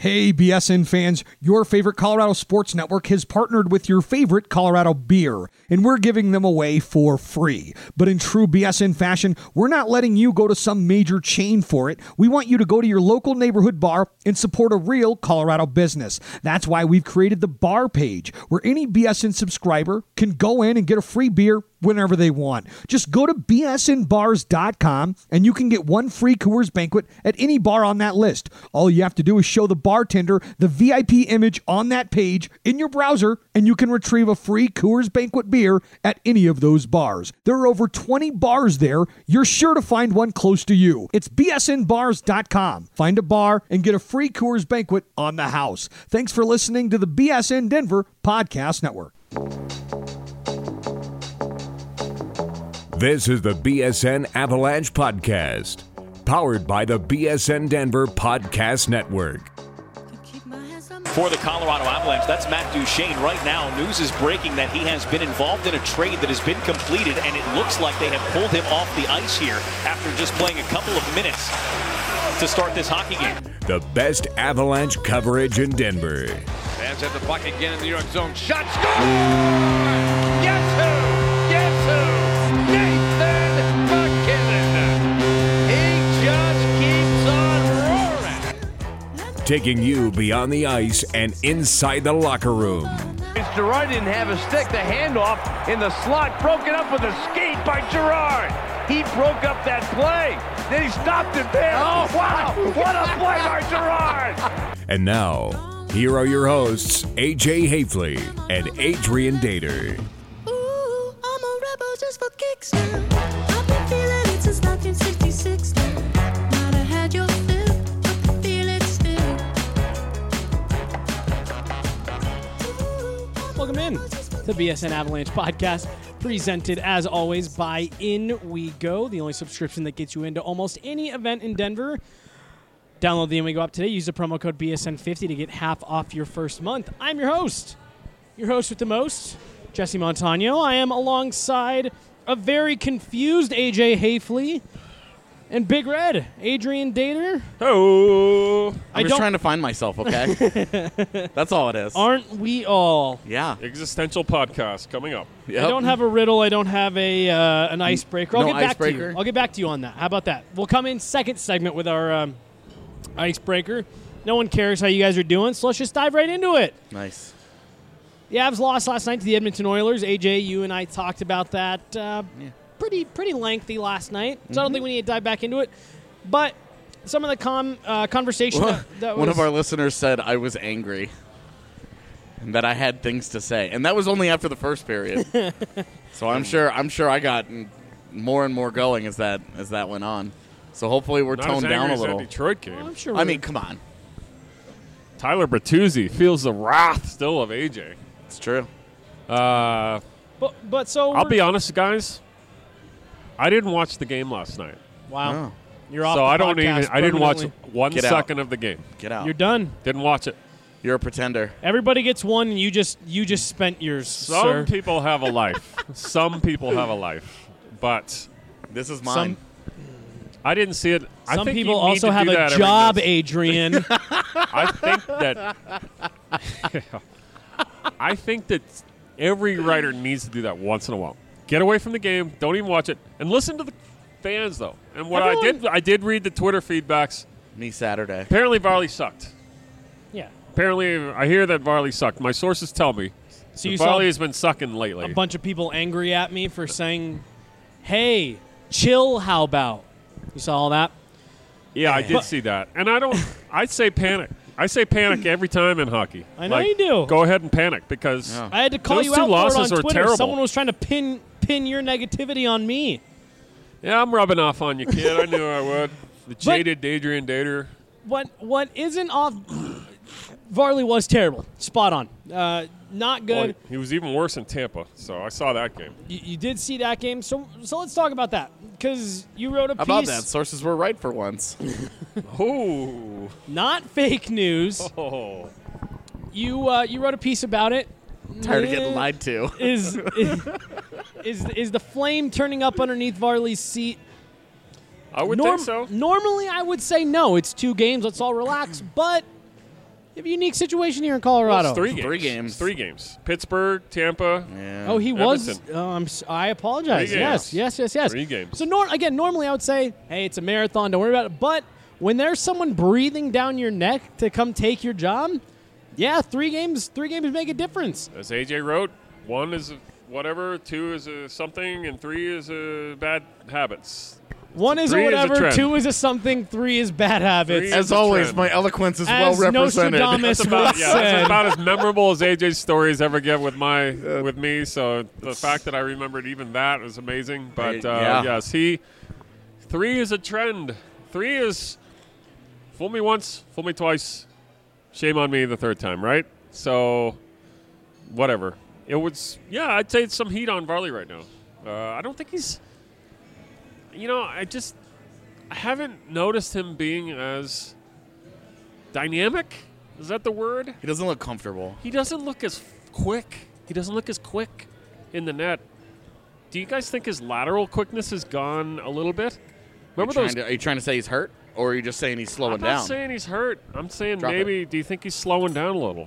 Hey, BSN fans, your favorite Colorado Sports Network has partnered with your favorite Colorado beer, and we're giving them away for free. But in true BSN fashion, we're not letting you go to some major chain for it. We want you to go to your local neighborhood bar and support a real Colorado business. That's why we've created the bar page, where any BSN subscriber can go in and get a free beer whenever they want. Just go to bsnbars.com and you can get one free Coors Banquet at any bar on that list. All you have to do is show the bartender the VIP image on that page in your browser and you can retrieve a free Coors Banquet beer at any of those bars. There are over 20 bars there. You're sure to find one close to you. It's bsnbars.com. Find a bar and get a free Coors Banquet on the house. Thanks for listening to the BSN Denver Podcast Network. This is the BSN Avalanche Podcast, powered by the BSN Denver Podcast Network. For the Colorado Avalanche, that's Matt Duchene. Right now, news is breaking that he has been involved in a trade that has been completed, and it looks like they have pulled him off the ice here after just playing a couple of minutes to start this hockey game. The best Avalanche coverage in Denver. Fans have the puck again in the New York zone. Shot, score! Guess who? Guess who? Nathan MacKinnon. He just keeps on roaring. Taking you beyond the ice and inside the locker room. Gerard didn't have a stick. The handoff in the slot broken up with a skate by Gerard. He broke up that play. Then he stopped it there. Oh, wow. What a play by Gerard. And now, here are your hosts, AJ Hafley and Adrian Dater. Ooh, I'm a rebel just for kicks now. I've been feeling it since 1966 now. Might have had your fill, I can feel it still. Welcome in to the BSN Avalanche Podcast, presented as always by In We Go, the only subscription that gets you into almost any event in Denver. Download the In We Go app today. Use the promo code BSN50 to get half off your first month. I'm your host with the most, Jesse Montano. I am alongside a very confused AJ Hafley and Big Red, Adrian Dater. Oh, I'm just trying to find myself, okay? That's all it is. Aren't we all? Yeah. existential podcast coming up. Yep. I don't have a riddle. I don't have an icebreaker. I'll No get back to icebreaker? you. I'll get back to you on that. How about that? We'll come in second segment with our icebreaker. No one cares how you guys are doing, so let's just dive right into it. Nice. The Avs lost last night to the Edmonton Oilers. AJ, you and I talked about that pretty lengthy last night, so I don't think we need to dive back into it. But some of the conversation that was... One of our listeners said I was angry and that I had things to say, and that was only after the first period. So I'm sure I got more and more going as that went on. So hopefully we're Not toned as down angry a as that little. Detroit game. Well, I'm sure I mean, come on. Tyler Bertuzzi feels the wrath still of AJ. It's true. but so I'll be honest, guys. I didn't watch the game last night, wow. Oh. You're off so the I don't podcast even. I didn't watch permanently. 1 Get out. second of the game. Get out. You're done. Didn't watch it. You're a pretender. Everybody gets one, and you just spent yours, Some sir. people have a life. Some people have a life, but This is mine. I didn't see it. I Some think people you need also to have do a that every job, once- Adrian. I think that. I think that every writer needs to do that once in a while. Get away from the game. Don't even watch it, and listen to the fans though. And what I did read the Twitter feedbacks. Me Saturday. Apparently, Varley sucked. Yeah. Apparently, I hear that Varley sucked. My sources tell me. So that you Varley saw has been sucking lately. a bunch of people angry at me for saying, "Hey, chill. How about?" You saw all that? Yeah, I did see that, and I'd say panic. I say panic every time in hockey. I know you do. Go ahead and panic because Yeah. I had to call those you two out for it losses on are Twitter. terrible. Someone was trying to pin your negativity on me. Yeah, I'm rubbing off on you, kid. I knew I would. The jaded Adrian Dater. What isn't off? Varley was terrible. Spot on. Not good. Well, he was even worse in Tampa, so I saw that game. You did see that game, so let's talk about that because you wrote a How piece. about that? Sources were right for once. Oh. Not fake news. Oh. You wrote a piece about it. Tired of getting lied to. Is the flame turning up underneath Varley's seat? I would think so. Normally, I would say no. It's 2 games. Let's all relax. But have a unique situation here in Colorado. Well, it's 3 games. 3 games. Pittsburgh, Tampa. Yeah. Oh, he was. Edmonton. I apologize. 3 games. Yes. 3 games. So normally I would say, hey, it's a marathon. Don't worry about it. But when there's someone breathing down your neck to come take your job, yeah, 3 games make a difference. As AJ wrote, 1 is whatever, 2 is a something, and 3 is a bad habits. 1 is a 3 is a whatever, trend. 2 is a something, 3 is bad habits. 3 As is a always, trend. my eloquence is As well represented. Nostradamus That's about, once yeah, that's said. about as memorable as AJ's stories ever get with me. So the fact that I remembered even that is amazing. But Yeah. yes, 3 is a trend. 3 is fool me once, fool me twice, shame on me the 3rd time, right? So whatever. It was, yeah, I'd say it's some heat on Varley right now. I don't think he's, I haven't noticed him being as dynamic. Is that the word? He doesn't look comfortable. He doesn't look as quick. He doesn't look as quick in the net. Do you guys think his lateral quickness has gone a little bit? Remember those? Are you trying to say he's hurt, or are you just saying he's slowing I'm down? not saying he's hurt. I'm saying Drop maybe. Do you think he's slowing down a little?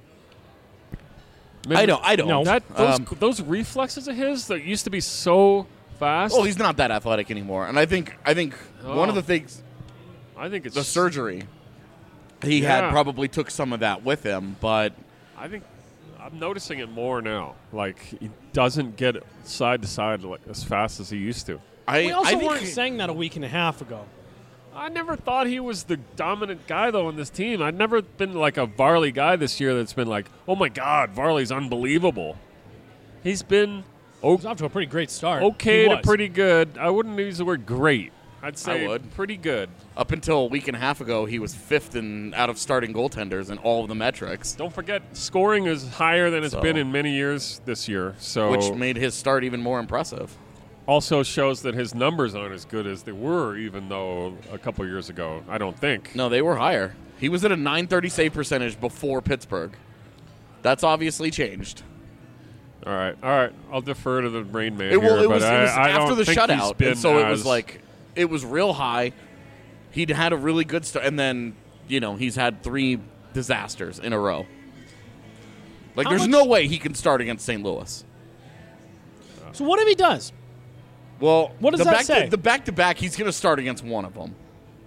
I don't. No. Those reflexes of his that used to be so fast. Well, he's not that athletic anymore, and I think one of the things, I think it's the surgery, he had probably took some of that with him, but I think I'm noticing it more now. Like he doesn't get side to side like as fast as he used to. We also I think weren't saying that a week and a half ago. I never thought he was the dominant guy, though, on this team. I've never been like a Varley guy this year that's been like, oh, my God, Varley's unbelievable. He's been He's off to a pretty great start. okay He to was. pretty good. I wouldn't use the word great. I'd say would. pretty good. up until a week and a half ago, he was 5th out of starting goaltenders in all of the metrics, Don't forget, scoring is higher than it's So- been in many years this year. So which made his start even more impressive. also shows that his numbers aren't as good as they were, even though a couple years ago, I don't think. No, they were higher. He was at a .930 save percentage before Pittsburgh. That's obviously changed. All right. I'll defer to the Rain Man It here, was but I after don't the think he's shutout, been and so it was as- like it was real high. He'd had a really good start, and then he's had 3 disasters in a row. Like, How there's much- no way he can start against St. Louis. So what if he does? Well, What does that say? The back-to-back, he's going to start against one of them.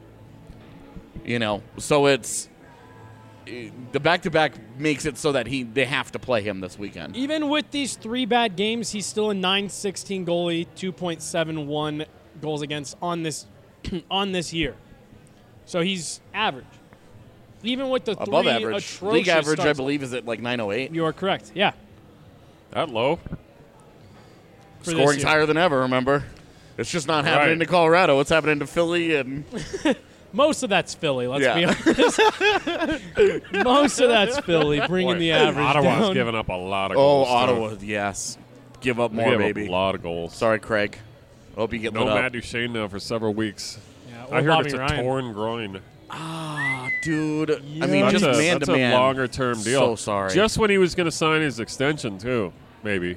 So it's the back-to-back makes it so that they have to play him this weekend. Even with these 3 bad games, he's still a .916 goalie, 2.71 goals against on this on this year. So he's average. Even with the Above 3 average. atrocious League average, I starts. believe, is at like 908. You are correct. Yeah. that low. For this Scoring's year. higher than ever, remember? It's just not happening Right. to Colorado. It's happening to Philly and Most of that's Philly, let's Yeah. be honest. Most of that's Philly, bringing Boy, the average Ottawa's down. giving up a lot of goals. too. Ottawa, yes. Give up They more, give baby. up a lot of goals. Sorry, Craig. Hope you get No lit up. Matt Duchene now for several weeks. Yeah, or I heard Bobby it's a Ryan. torn groin. Dude, I mean, Yeah. just That's man a to man. longer-term deal. So sorry. Just when he was going to sign his extension, too, maybe.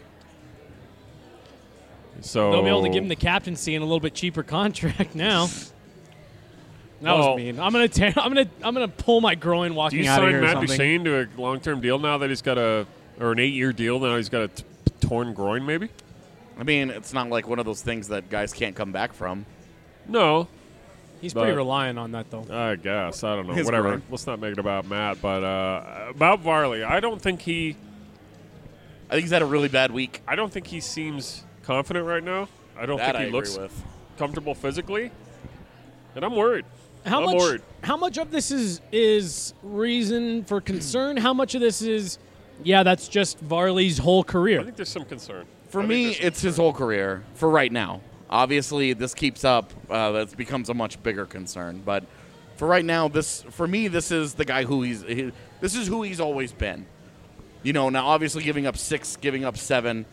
So They'll be able to give him the captaincy and a little bit cheaper contract now. That Well- was mean. I'm gonna pull my groin Do walking you out of sign here. Matt or something. Duchene to a long-term deal now that he's got or an 8-year deal now he's got a torn groin, maybe? I mean, it's not like one of those things that guys can't come back from. No, He's pretty But- reliant on that though. I guess. I don't know. His Whatever. groin. Let's not make it about Matt. But about Varley, I don't think he I think he's had a really bad week. seems confident right now. I don't That think I he agree looks with. comfortable physically. And I'm worried. How I'm much? worried. How much of this is reason for concern? How much of this is, yeah, that's just Varley's whole I career? think there's some concern. For I think me, there's some it's his whole career for right now. Obviously, this keeps up. That becomes a much bigger concern. But for right now, this is the guy who this is who he's always been. Now obviously giving up 6, giving up 7,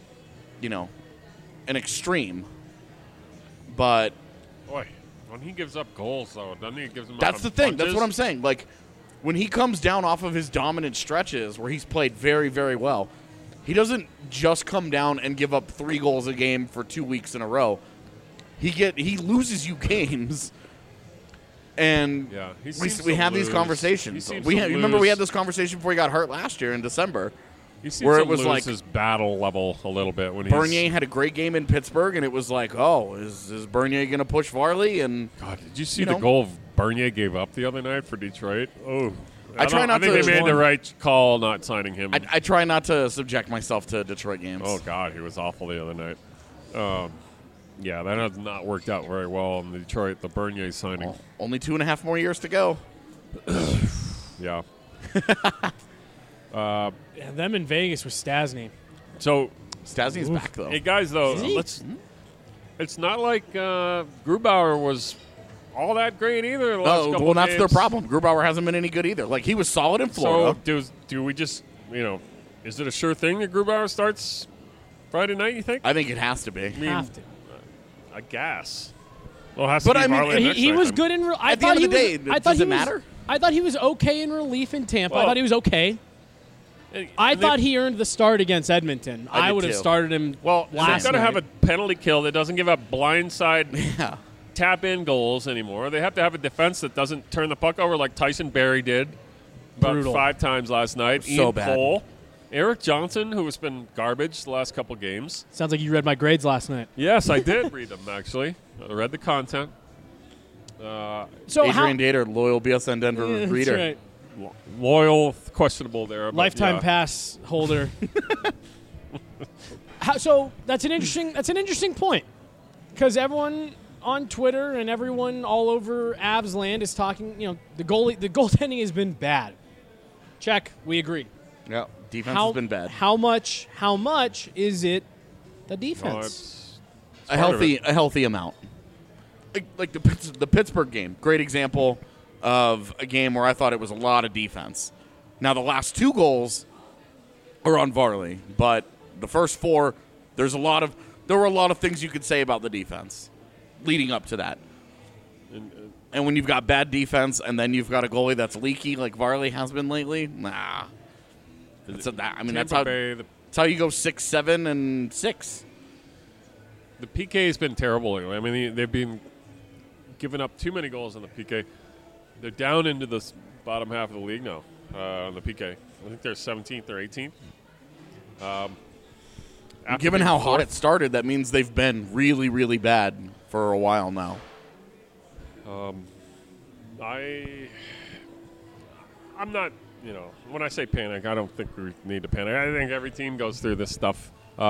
an extreme. But Boy, when he gives up goals, though, doesn't he? Gives them that's up the on thing. That's punches? what I'm saying. Like, when he comes down off of his dominant stretches where he's played very, very well, he doesn't just come down and give up 3 goals a game for 2 weeks in a row. He loses you games And Yeah, he we seems we to have these lose. conversations. He seems We to remember we lose. had this conversation before he got hurt last year in December. He seems where to it was lose like his battle level a little bit when Bernier had a great game in Pittsburgh, and it was like, oh, is Bernier going to push Varley? And God, did you see you the know. goal Bernier gave up the other night for Detroit? Oh, I try not I think to- they made the right call not signing him. I try not to subject myself to Detroit games. Oh God, he was awful the other night. Yeah, that has not worked out very well in Detroit. The Bernier signing. Well, only 2.5 more years to go. Yeah. Yeah, them in Vegas with Stasny. So, Stasny's back though. hey guys, though, he? It's not like Grubauer was all that great either. The last Oh, couple well, that's their games. problem. Grubauer hasn't been any good either. Like, he was solid in Florida. So, do we just, is it a sure thing that Grubauer starts Friday night? You think? I think it has to be. mean, Have to. I guess. Well, it has But to be I mean, Varley next He night was then. good in. I At the thought end he of the was. day, I thought does he it was. matter? I thought he was okay in relief in Tampa. I Well- thought he was okay. I And thought they- he earned the start against Edmonton. I I did would have too. started him. Well, they've last got to have night. a penalty kill that doesn't give up blindside Yeah. tap-in goals anymore. They have to have a defense that doesn't turn the puck over like Tyson Barrie did about Brutal. 5 times last night. So Ian bad. Cole, Eric Johnson, who has been garbage the last couple games. Sounds like you read my grades last night. Yes, I did read them, actually. I read the content. So Adrian Dater, loyal BSN Denver Yeah, that's reader. right. Loyal, questionable there. but Lifetime yeah. pass holder. So that's an interesting point, because everyone on Twitter and everyone all over Avs land is talking. The goaltending has been bad. Check, we agree. Yeah. Defense has been bad. How much is it the No, defense? it's A part of it. healthy amount. Like the Pittsburgh game, great example of a game where I thought it was a lot of defense. Now the last 2 goals are on Varley, but the first 4, there were a lot of things you could say about the defense leading up to that. And when you've got bad defense and then you've got a goalie that's leaky like Varley has been lately, nah. That's Tampa Bay, that's how you go 6-7 and 6. the PK has been terrible lately. I mean, they've been giving up too many goals on the PK. They're down into the bottom half of the league now on the PK. I think they're 17th or 18th. After Given being how hot fourth. it started, that means they've been really, really bad for a while now. I'm not, when I say panic, I don't think we need to panic. I think every team goes through this stuff.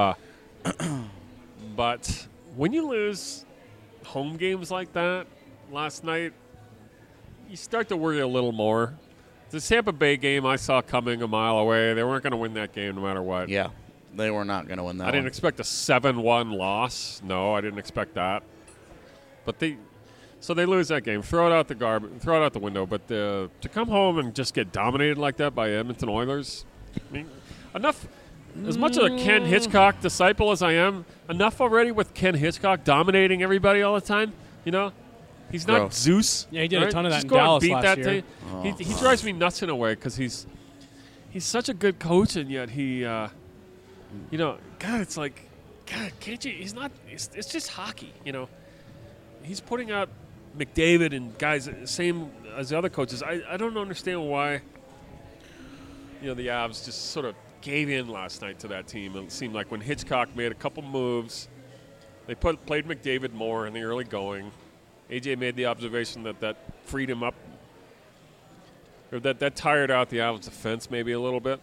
But when you lose home games like that last night, you start to worry a little more. The Tampa Bay game I saw coming a mile away. They weren't going to win that game no matter what. Yeah, they were not going to win that I didn't one. expect a 7-1 loss. No, I didn't expect that. But they lose that game. Throw it out the garbage. Throw it out the window. But to come home and just get dominated like that by Edmonton Oilers, I mean, enough. As much of a Ken Hitchcock disciple as I am, enough already with Ken Hitchcock dominating everybody all the time. He's not Gross. Zeus. Yeah, he did a ton of that Just in go and Dallas beat last that year. team. He drives me nuts in a way because he's such a good coach, and yet he, God, it's like, God, can't you? He's not. It's just hockey, He's putting out McDavid and guys same as the other coaches. I don't understand why. The Avs just sort of gave in last night to that team. It seemed like when Hitchcock made a couple moves, they played McDavid more in the early going. AJ made the observation that freed him up, or that tired out the Avs defense maybe a little bit.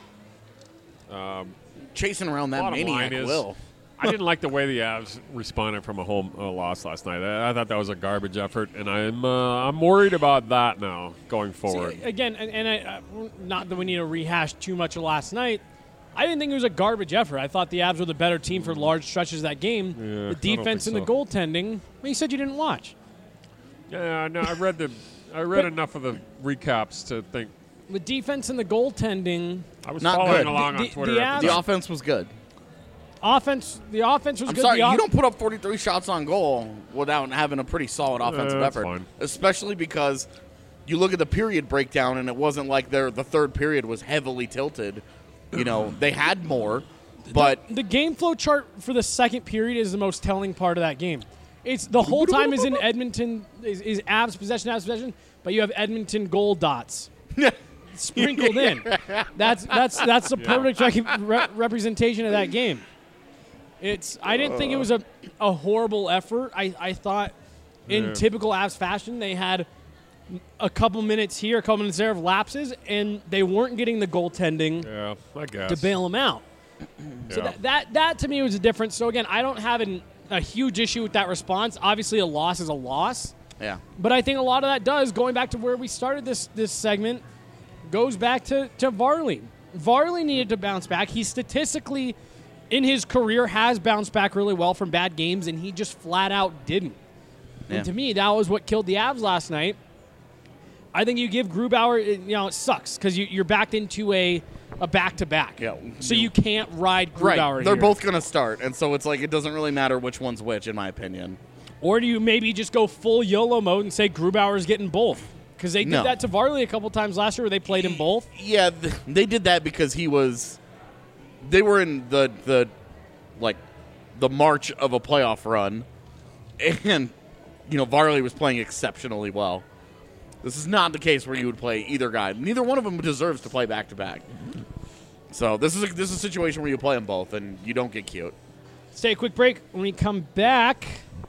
Chasing around that Bottom maniac line is, will. I didn't like the way the Avs responded from a home loss last night. I thought that was a garbage effort, and I'm worried about that now going forward. See, again, and I, not that we need to rehash too much of last night. I didn't think it was a garbage effort. I thought the Avs were the better team for large stretches of that game. Yeah, I The don't defense and think the so. goaltending. Well, you said you didn't watch. Yeah, no, I read enough of the recaps to think The defense and the goaltending. I was Not following good. along The- on Twitter. the after Avs- The offense was good. The offense was I'm good. sorry, The you don't put up 43 shots on goal without having a pretty solid offensive that's effort. fine. Especially because you look at the period breakdown, and it wasn't like the third period was heavily tilted. They had more, but The game flow chart for the second period is the most telling part of that game. It's the whole time is in Edmonton, is Avs possession, but you have Edmonton goal dots sprinkled in. That's the perfect representation of that game. I didn't think it was a horrible effort. I thought in typical Avs fashion they had a couple minutes here, a couple minutes there of lapses, and they weren't getting the goaltending to bail them out. So that to me was a difference. So again, I don't have a huge issue with that response. Obviously, a loss is a loss. Yeah. But I think a lot of that does, going back to where we started this segment, goes back to Varley. Varley needed to bounce back. He statistically, in his career, has bounced back really well from bad games, and he just flat out didn't. Yeah. And to me, that was what killed the Avs last night. I think you give Grubauer, it sucks because you're backed into a back-to-back. Yeah. So you can't ride Grubauer Right. They're here. both going to start, and so it's like it doesn't really matter which one's which, in my opinion. Or do you maybe just go full YOLO mode and say Grubauer's getting both? Because they did that to Varley a couple times last year where they played him both. Yeah, they did that because they were in the march of a playoff run, and Varley was playing exceptionally well. This is not the case where you would play either guy. Neither one of them deserves to play back-to-back. So this is a situation where you play them both, and you don't get cute. Let's take a quick break. When we come back,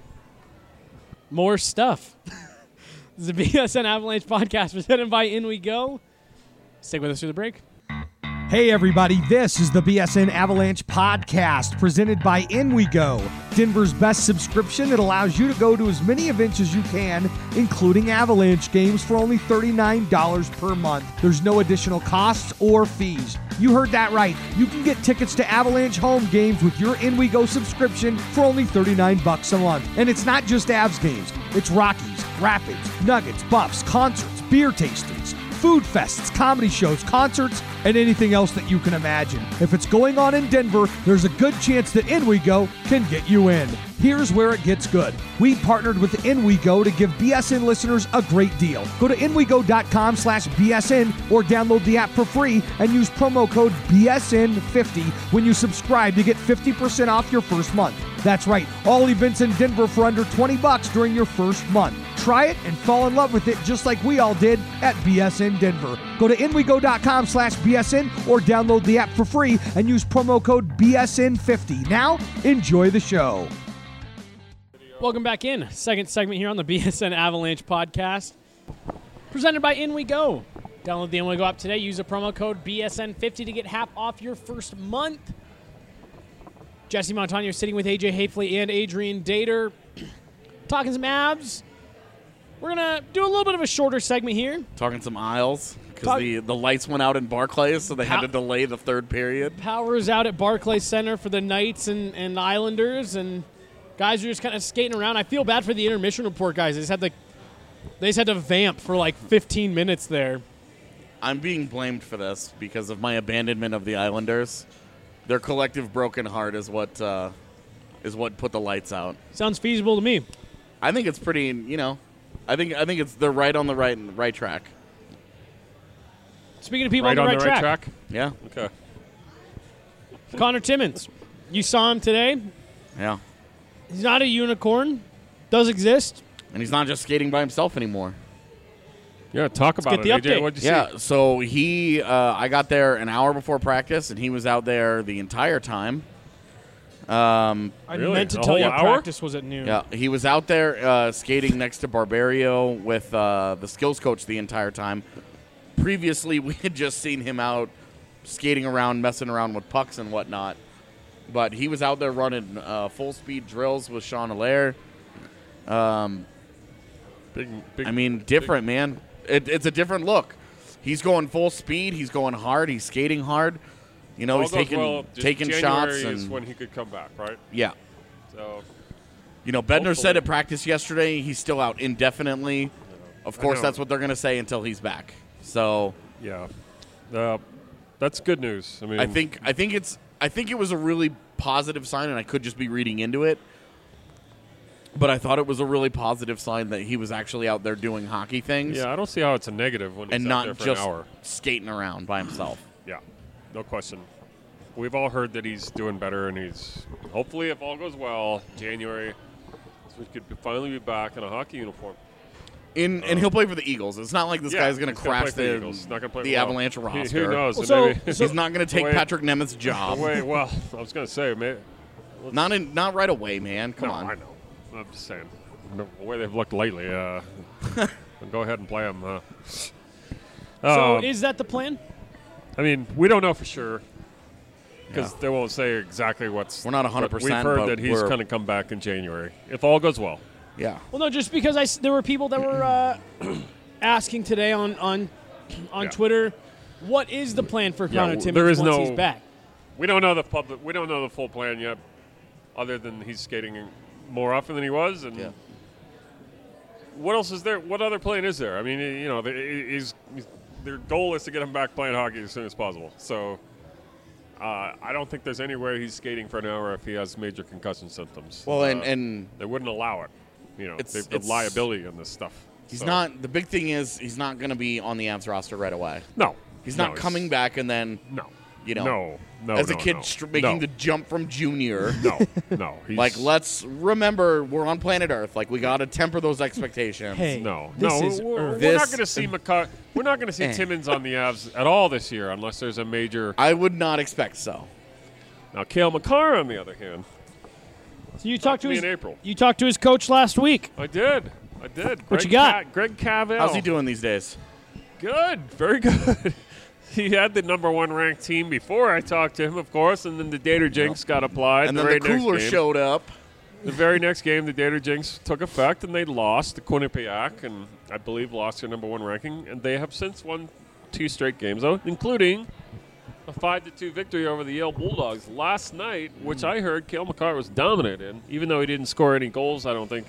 more stuff. This is the BSN Avalanche podcast presented by In We Go. Stick with us through the break. Hey everybody, this is the BSN Avalanche podcast presented by In We Go, Denver's best subscription that allows you to go to as many events as you can, including Avalanche games for only $39 per month. There's no additional costs or fees. You heard that right. You can get tickets to Avalanche home games with your In We Go subscription for only $39 a month. And it's not just Avs games. It's Rockies, Rapids, Nuggets, Buffs, concerts, beer tastings, food fests, comedy shows, concerts, and anything else that you can imagine. If it's going on in Denver, there's a good chance that In We Go can get you in. Here's where it gets good. We partnered with In We Go to give BSN listeners a great deal. Go to inwego.com/BSN or download the app for free and use promo code BSN50 when you subscribe to get 50% off your first month. That's right, all events in Denver for under $20 during your first month. Try it and fall in love with it just like we all did at BSN Denver. Go to inwego.com/BSN or download the app for free and use promo code BSN50. Now, enjoy the show. Welcome back in. Second segment here on the BSN Avalanche podcast. Presented by In We Go. Download the In We Go app today. Use the promo code BSN50 to get half off your first month. Jesse Montano sitting with AJ Hafley and Adrian Dater. Talking some Avs. We're going to do a little bit of a shorter segment here. Talking some aisles because the lights went out in Barclays, so they had to delay the third period. Power is out at Barclays Center for the Knights and Islanders, and guys are just kind of skating around. I feel bad for the intermission report guys. They just had to vamp for like 15 minutes there. I'm being blamed for this because of my abandonment of the Islanders. Their collective broken heart is what put the lights out. Sounds feasible to me. I think it's pretty, I think they're right on the right track. Speaking of people Right on the right right track? Yeah. Okay. Connor Timmins. You saw him today. Yeah. He's not a unicorn. Does exist. And he's not just skating by himself anymore. Yeah, talk about it, get the AJ. update. What'd you Yeah, see? so I got there an hour before practice, and he was out there the entire time. I Really? meant to A tell you whole hour? practice was at noon. Yeah, he was out there skating next to Barbario with the skills coach the entire time. Previously, we had just seen him out skating around, messing around with pucks and whatnot. But he was out there running full-speed drills with Sean Allaire. Big, I mean, different, man. It's a different look. He's going full speed. He's going hard. He's skating hard. He's all goes taking well, just taking January shots. is And when he could come back, right? yeah. So Bednar said Hopefully. at practice yesterday he's still out indefinitely. Of course, know. that's what they're going to say until he's back. So yeah, that's good news. I mean, I think it was a really positive sign, and I could just be reading into it. But I thought it was a really positive sign that he was actually out there doing hockey things. Yeah, I don't see how it's a negative when he's and out there not for just an hour. skating around by himself. Yeah, no question. We've all heard that he's doing better, and he's hopefully, if all goes well, January is He could finally be back in a hockey uniform. And he'll play for the Eagles. It's not like this guy's going to crash the Eagles. He's not gonna play the well. Avalanche roster. Who knows? Well, Maybe- He's not going to take Wait. Patrick Nemeth's job. well, I was going to say, maybe. Not right away, man. Come No, on. I know. I'm just saying. The way they've looked lately, go ahead and play them. So is that the plan? I mean, we don't know for sure because they won't say exactly what's. We're not 100%, but we've heard but that he's we're- going to come back in January if all goes well. Yeah. Well, no, just because there were people that were asking today on Twitter, what is the plan for Connor Timmins there is once no- he's back? We don't know the full plan yet, other than he's skating more often than he was. And what else is there? What other plan is there? I mean, their goal is to get him back playing hockey as soon as possible. So I don't think there's any way he's skating for an hour if he has major concussion symptoms. Well, and they wouldn't allow it. It's the liability in this stuff. he's not. The big thing is he's not going to be on the Avs roster right away. No, He's not coming back and then No, no, as a kid making the jump from junior. No. He's, Like, let's remember we're on planet Earth. Like, we got to temper those expectations. Hey, No, this no, is we're Earth. not going to see We're not going to see Timmins on the Avs at all this year unless there's a major. I would not expect so. Now, Cale Makar, on the other hand, So you talked to me his in April. You talked to his coach last week. I did. What you got? Greg Cavell. How's he doing these days? Good, very good. He had the number 1 ranked team before I talked to him, of course, and then the Dater Jinx got applied. And then the cooler showed up. The very next game, the Dater Jinx took effect, and they lost to Quinnipiac, and I believe lost their number 1 ranking. And they have since won 2 straight games, though, including a 5-2 victory over the Yale Bulldogs last night, which I heard Cale Makar was dominant in, even though he didn't score any goals, I don't think.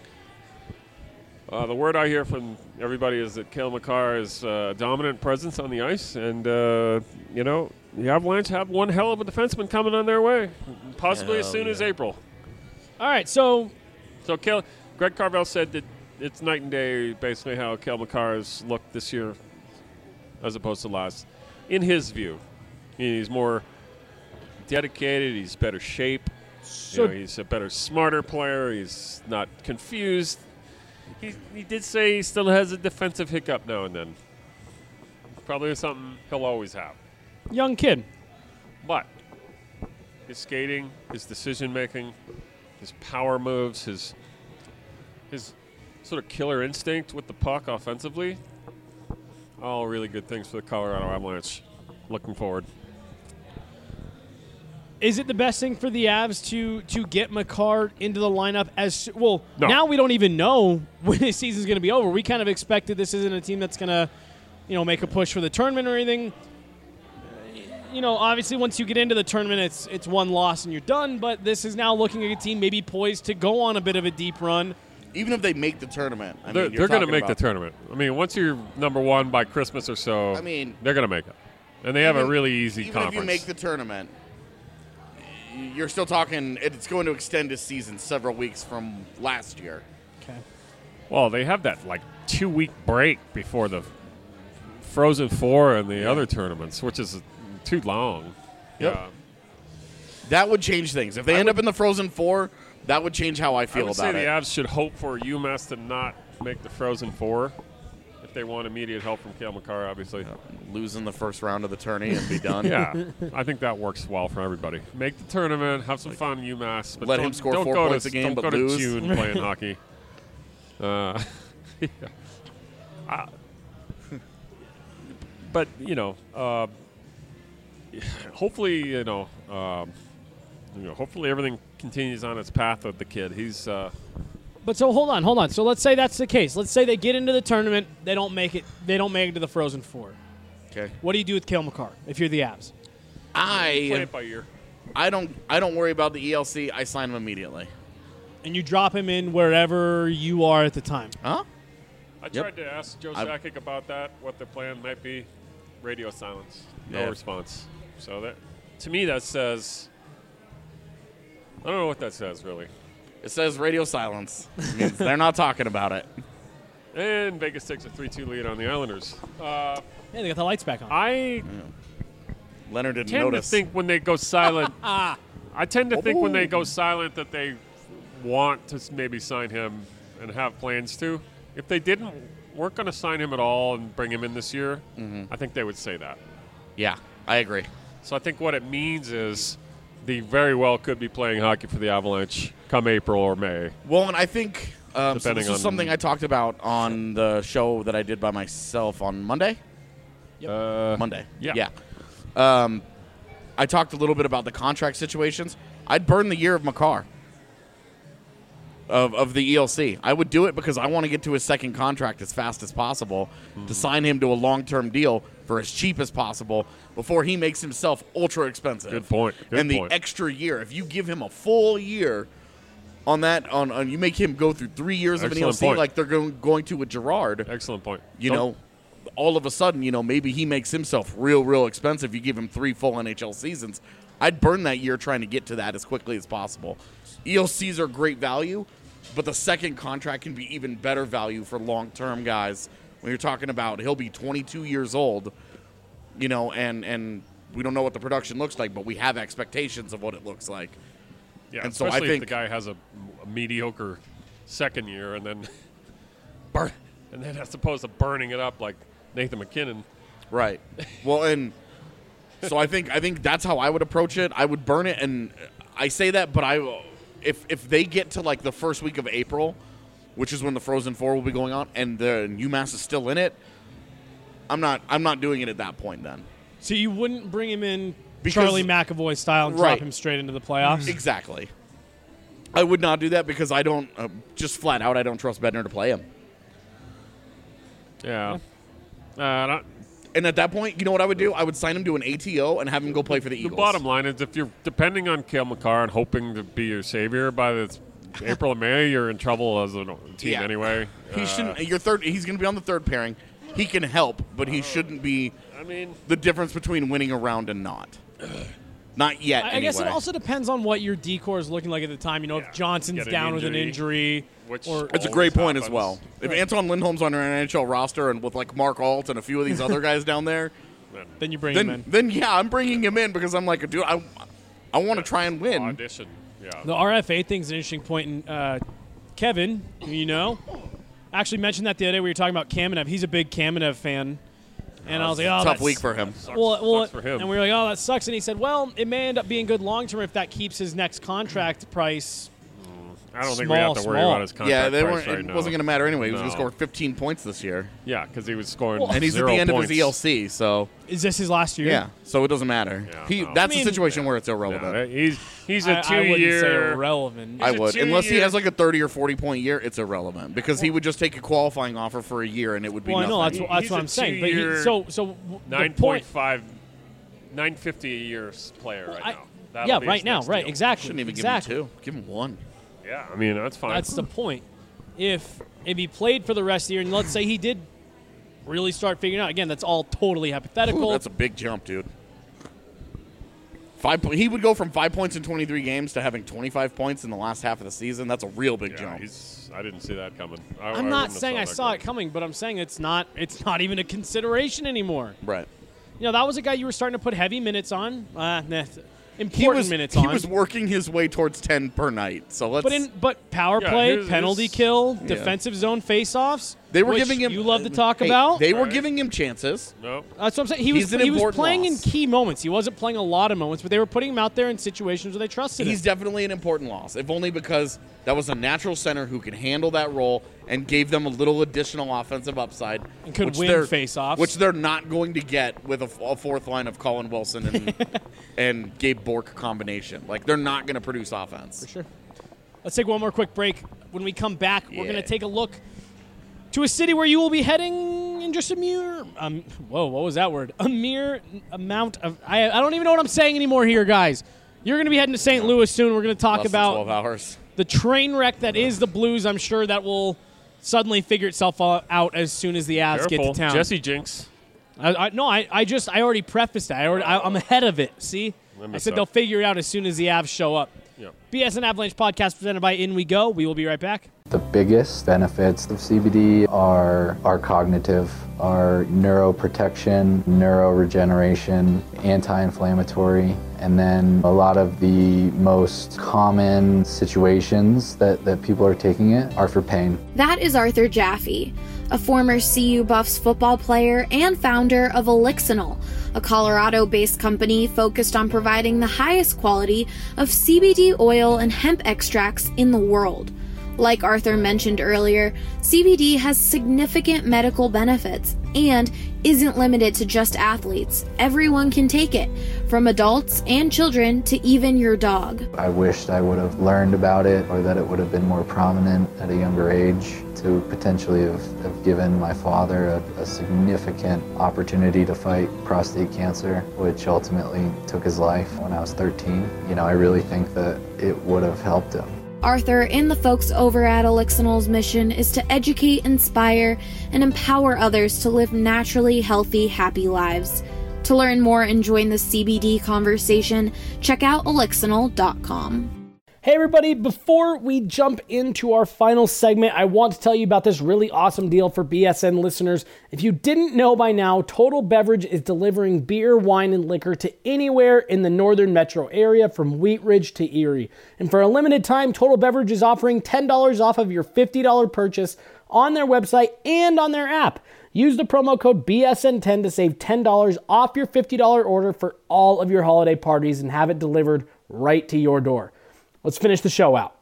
The word I hear from everybody is that Cale Makar is a dominant presence on the ice, and, the Avalanche have one hell of a defenseman coming on their way, possibly as soon as April. All right, so Greg Carvel said that it's night and day, basically, how Cale Makar has looked this year as opposed to last, in his view. He's more dedicated, he's better shape, he's a better, smarter player, he's not confused. He did say he still has a defensive hiccup now and then. Probably something he'll always have. young kid. But his skating, his decision-making, his power moves, his sort of killer instinct with the puck offensively, all really good things for the Colorado Avalanche. Looking forward. Is it the best thing for the Avs to get Makar into the lineup as well? No. Now we don't even know when the season's going to be over. We kind of expected this isn't a team that's going to, make a push for the tournament or anything. Obviously once you get into the tournament, it's one loss and you're done. But this is now looking like a team maybe poised to go on a bit of a deep run. Even if they make the tournament, They're going to make the tournament. I mean, once you're number 1 by Christmas or so, they're going to make it, and they have a really easy conference. Even if you make the tournament, you're still talking. It's going to extend this season several weeks from last year. Okay. Well, they have that 2-week break before the Frozen Four and the other tournaments, which is too long. Yep. Yeah. That would change things. If they end up in the Frozen Four, that would change how I feel I would about say it. the Avs should hope for UMass to not make the Frozen Four if they want immediate help from Cale Makar, obviously. Lose in the first round of the tourney and be done. Yeah, I think that works well for everybody. Make the tournament, have some fun, UMass. But let don't- him score don't 4 go points to, a game, don't but go lose. to June playing hockey. But, hopefully, hopefully everything continues on its path with the kid. He's But so hold on. So let's say that's the case. Let's say they get into the tournament, they don't make it to the Frozen Four. Okay. What do you do with Cale Makar if you're the Avs? play it by ear. I don't worry about the ELC. I sign him immediately. And you drop him in wherever you are at the time. Huh? I tried to ask Joe Sakic about that, what their plan might be. Radio silence. No response. So that, to me, that says, I don't know what that says, really. It says radio silence. It means they're not talking about it. And Vegas takes a 3-2 lead on the Islanders. Hey, they got the lights back on. I Leonard didn't tend notice. to think when they go silent, I tend to think when they go silent that they want to maybe sign him and have plans to. If they weren't going to sign him at all and bring him in this year, I think they would say that. Yeah, I agree. So I think what it means is they very well could be playing hockey for the Avalanche come April or May. Well, and I think so Depending this is on- something I talked about on the show that I did by myself on Monday. Monday. Yeah. I talked a little bit about the contract situations. I'd burn the year of Makar of the ELC. I would do it because I want to get to his second contract as fast as possible to sign him to a long-term deal for as cheap as possible before he makes himself ultra expensive. Good point. Good and the point. extra year, if you give him a full year on that, on you make him go through 3 years of an Excellent ELC point. like they're going to with Gerard. Excellent point. You know, all of a sudden, maybe he makes himself real expensive. You give him 3 full NHL seasons. I'd burn that year trying to get to that as quickly as possible. ELCs are great value, but the second contract can be even better value for long-term guys. When you're talking about he'll be 22 years old, and we don't know what the production looks like, but we have expectations of what it looks like. Yeah, and so I especially think if the guy has a mediocre second year and then as opposed to burning it up like Nathan McKinnon. Right. Well, and so I think that's how I would approach it. I would burn it, and I say that, but if they get to like the first week of April, which is when the Frozen Four will be going on, and the UMass is still in it, I'm not doing it at that point then. So you wouldn't bring him in Because- Charlie McAvoy style and Right. drop him straight into the playoffs? Exactly. I would not do that because I don't just flat out I don't trust Bednar to play him. Yeah. And at that point, you know what I would do? I would sign him to an ATO and have him go play for the The Eagles. bottom line is if you're depending on Cale Makar and hoping to be your savior by the April or May, you're in trouble as a team Yeah. anyway. He shouldn't. He's going to be on the third pairing. He can help, but he shouldn't be the difference between winning a round and not. Not yet. I guess it anyway. also depends on what your decor is looking like at the time. If Johnson's Get an down with an injury, injury, which or It's a always great point as happens. well. If Anton Lindholm's on an NHL roster and with like Mark Alt and a few of these other guys down there, then you bring him in. then yeah, I'm bringing him in because I'm like, dude, I want to try and win. Audition. Yeah. The RFA thing's an interesting point. And Kevin, who you know, actually mentioned that the other day. We were talking about Kamenev. He's a big Kamenev fan. And I was like, Tough week for him. Well, Sucks for him. and we were like, oh, that sucks. And he said, well, it may end up being good long term if that keeps his next contract price. I don't think we have to worry about his contract Yeah, price right it now. wasn't going to matter anyway. He was No. going to score 15 points this year. Yeah, because he was scoring And he's at 0 the end points. of his ELC, so Is this his last year? yeah. So it doesn't matter. Yeah, no. That's I mean- a situation where it's Yeah, irrelevant. he's I a wouldn't say 2-year. irrelevant. I He's a would. Unless he 2-year has like a 30 or 40-point year, it's irrelevant because he would just take a qualifying offer for a year and it would be Well, I know nothing. that's He's what a I'm saying. But two-year, the point, 9.5, 950 a year player right now. That'll yeah, be right his now, next right, deal. exactly. Shouldn't even exactly. give him 2. Give him 1. Yeah, I mean that's fine. That's the point. If he played for the rest of the year, and let's say he did really start figuring out, again, that's all totally hypothetical. Ooh, that's a big jump, dude. He would go from 5 points in 23 games to having 25 points in the last half of the season. That's a real big yeah, jump. I didn't see that coming. I I'm not wouldn't have saying I that saw it coming, but I'm saying it's not even a consideration anymore. Right. That was a guy you were starting to put heavy minutes on. Important minutes on. He was working his way towards 10 per night. So let's. But power Yeah, play, here's- penalty kill, defensive zone faceoffs. they were which giving him. You love to talk hey, about. They were Right. giving him chances. No. That's what I'm saying. He He's was an important playing loss. in key moments. He wasn't playing a lot of moments, but they were putting him out there in situations where they trusted He's him. definitely an important loss, if only because that was a natural center who can handle that role and gave them a little additional offensive upside. And could which win they're- faceoffs. Which they're not going to get with a fourth line of Colin Wilson and, and Gabe Bork combination. Like, they're not going to produce offense. For sure. Let's take one more quick break. When we come back, we're going to take a look to a city where you will be heading in just a mere whoa, what was that word? A mere amount of I don't even know what I'm saying anymore here, guys. You're going to be heading to St. Louis soon. We're going to talk Less than about 12 hours. the train wreck that is the Blues. I'm sure that will suddenly figure itself out as soon as the Avs get Careful. to town. Jesse Jinx. I already prefaced that. I'm ahead of it. See? I said they'll figure it out as soon as the Avs show up. Yeah. BSN Avalanche podcast presented by In We Go. We will be right back. The biggest benefits of CBD are cognitive, are neuroprotection, neuroregeneration, anti-inflammatory, and then a lot of the most common situations that people are taking it are for pain. That is Arthur Jaffe, a former CU Buffs football player and founder of Elixinol, a Colorado-based company focused on providing the highest quality of CBD oil and hemp extracts in the world. Like Arthur mentioned earlier, CBD has significant medical benefits and isn't limited to just athletes. Everyone can take it, from adults and children to even your dog. I wished I would have learned about it, or that it would have been more prominent at a younger age to potentially have given my father a significant opportunity to fight prostate cancer, which ultimately took his life when I was 13. I really think that it would have helped him. Arthur and the folks over at Elixinol's mission is to educate, inspire, and empower others to live naturally healthy, happy lives. To learn more and join the CBD conversation, check out elixinol.com. Hey everybody, before we jump into our final segment, I want to tell you about this really awesome deal for BSN listeners. If you didn't know by now, Total Beverage is delivering beer, wine, and liquor to anywhere in the northern metro area from Wheat Ridge to Erie. And for a limited time, Total Beverage is offering $10 off of your $50 purchase on their website and on their app. Use the promo code BSN10 to save $10 off your $50 order for all of your holiday parties and have it delivered right to your door. Let's finish the show out.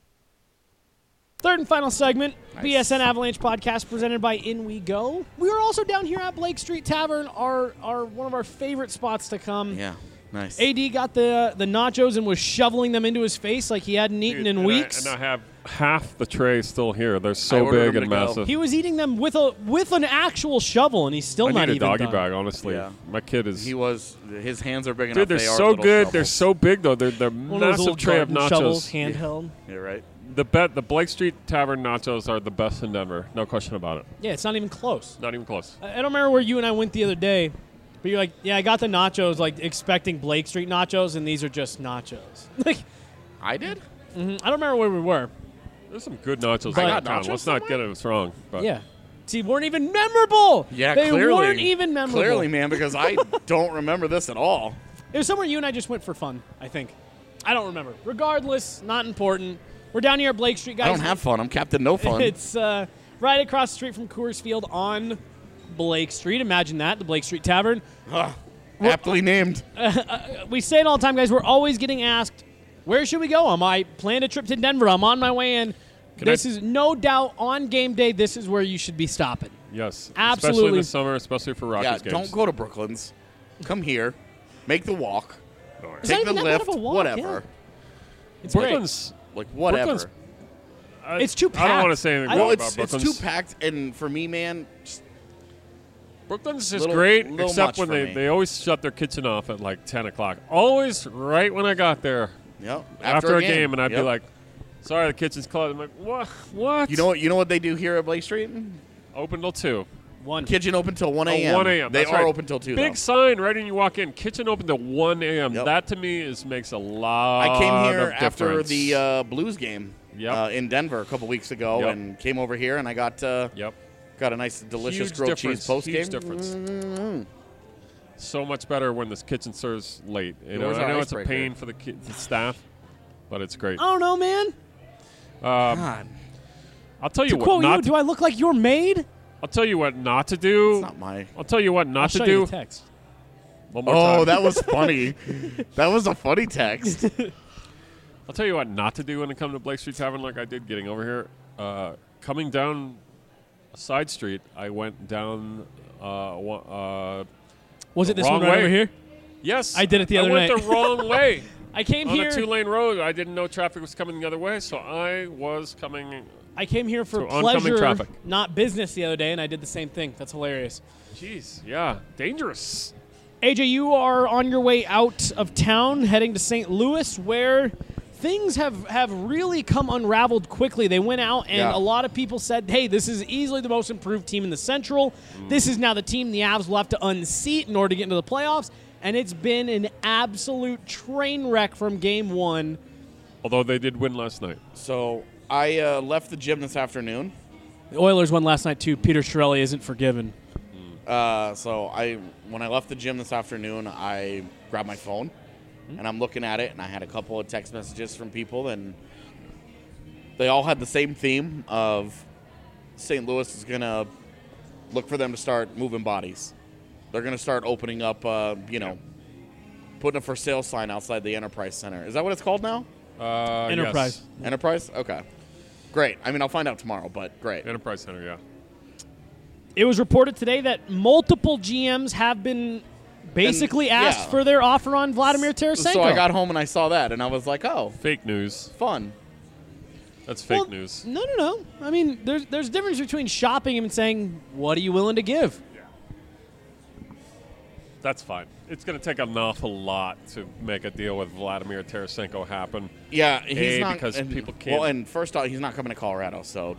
Third and final segment, nice. BSN Avalanche podcast presented by In We Go. We were also down here at Blake Street Tavern, our one of our favorite spots to come. Yeah, nice. AD got the nachos and was shoveling them into his face like he hadn't eaten in weeks. And I have half the tray still here. They're so big and massive. He was eating them with an actual shovel, and he's still not even done. I need a doggy bag, honestly. Yeah. My kid is. His hands are big enough. Dude, they're so good. Shovels. They're so big, though. They're massive tray of nachos. Shovels, handheld. Yeah, right. The Blake Street Tavern nachos are the best in Denver. No question about it. Yeah, it's not even close. Not even close. I don't remember where you and I went the other day, but you're like, yeah, I got the nachos, like expecting Blake Street nachos, and these are just nachos. I did? Mm-hmm. I don't remember where we were. There's some good nachos in town. Let's not get it wrong. But. Yeah. See, weren't even memorable. Yeah, they clearly. Weren't even memorable. Clearly, man, because I don't remember this at all. It was somewhere you and I just went for fun, I think. I don't remember. Regardless, not important. We're down here at Blake Street, guys. I don't have fun. I'm Captain No Fun. It's right across the street from Coors Field on Blake Street. Imagine that, the Blake Street Tavern. Aptly named. We say it all the time, guys. We're always getting asked, where should we go? I planned a trip to Denver. I'm on my way in. This is no doubt on game day. This is where you should be stopping. Yes, absolutely. Especially this summer, especially for Rockies games. Don't go to Brooklands. Come here, make the walk, take the lift, whatever. Yeah. It's Brooklands, like whatever. Brooklands, it's too packed. I don't want to say anything about Brooklands. It's too packed, and for me, man, Brooklands is great, except when they always shut their kitchen off at like 10 o'clock. Always right when I got there. Yep. After a game, and I'd be like, sorry, the kitchen's closed. I'm like, what? You know what they do here at Blake Street? Open till 2. Kitchen open till 1 a.m. 1 a.m. They are open till 2. Big sign right when you walk in. Kitchen open till 1 a.m. Yep. That to me makes a lot. I came here of after difference. the Blues game in Denver a couple weeks ago, and came over here, and I got a nice, delicious grilled cheese post game. Huge difference. Mm-hmm. So much better when this kitchen serves late. I know it's a pain for the staff, but it's great. I don't know, man. God. I'll tell you to what. Quote you, do I look like your maid? I'll tell you what not to do. It's not my. I'll tell you what not to do. I'll show you the text. One more time. That was funny. That was a funny text. I'll tell you what not to do when it comes to Blake Street Tavern, like I did getting over here. Coming down a side street, I went down. Was it this one right over here? Yes, I did it the other night. I went the wrong way. I came on here a 2-lane road. I didn't know traffic was coming the other way, so I was coming. I came here for pleasure, not business, the other day, and I did the same thing. That's hilarious. Jeez, yeah, dangerous. AJ, you are on your way out of town, heading to St. Louis, where things have really come unraveled quickly. They went out, and a lot of people said, hey, this is easily the most improved team in the Central. This is now the team the Avs will have to unseat in order to get into the playoffs. And it's been an absolute train wreck from game one. Although they did win last night. So I left the gym this afternoon. The Oilers won last night, too. Peter Chiarelli isn't forgiven. So when I left the gym this afternoon, I grabbed my phone, and I'm looking at it, and I had a couple of text messages from people, and they all had the same theme of St. Louis is going to look for them to start moving bodies. They're going to start opening up, putting a for sale sign outside the Enterprise Center. Is that what it's called now? Enterprise. Yes. Enterprise? Okay. Great. I mean, I'll find out tomorrow, but great. Enterprise Center, yeah. It was reported today that multiple GMs have been basically asked for their offer on Vladimir Tarasenko. So I got home and I saw that, and I was like, oh. Fake news. Fun. That's fake news. No. I mean, there's a difference between shopping him and saying, what are you willing to give? Yeah. That's fine. It's going to take an awful lot to make a deal with Vladimir Tarasenko happen. Yeah, he's not. Because people can't. Well, and first off, he's not coming to Colorado, so.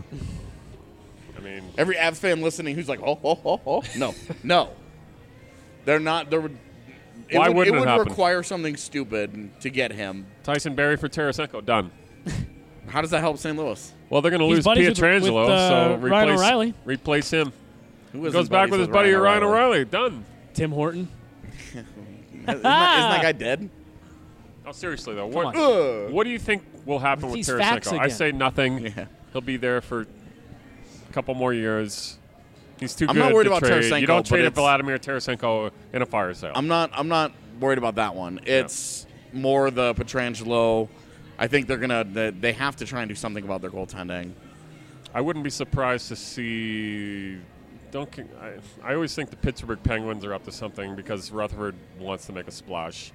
I mean. Every Avs fan listening who's like, oh. No. They're not. It would require something stupid to get him. Tyson Barrie for Tarasenko, done. How does that help St. Louis? Well, they're going to lose Pietrangelo, so Ryan O'Reilly. Replace him. Who goes back with his buddy Ryan O'Reilly. Done. Tim Horton. Isn't that guy dead? Oh, seriously, though. What do you think will happen with Tarasenko? I say nothing. Yeah. He'll be there for a couple more years. He's too I'm good not worried to about trade. Tarasenko, You don't trade but Vladimir Tarasenko in a fire sale. I'm not worried about that one. It's more the Pietrangelo. I think they have to try and do something about their goaltending. I wouldn't be surprised to see. I always think the Pittsburgh Penguins are up to something because Rutherford wants to make a splash.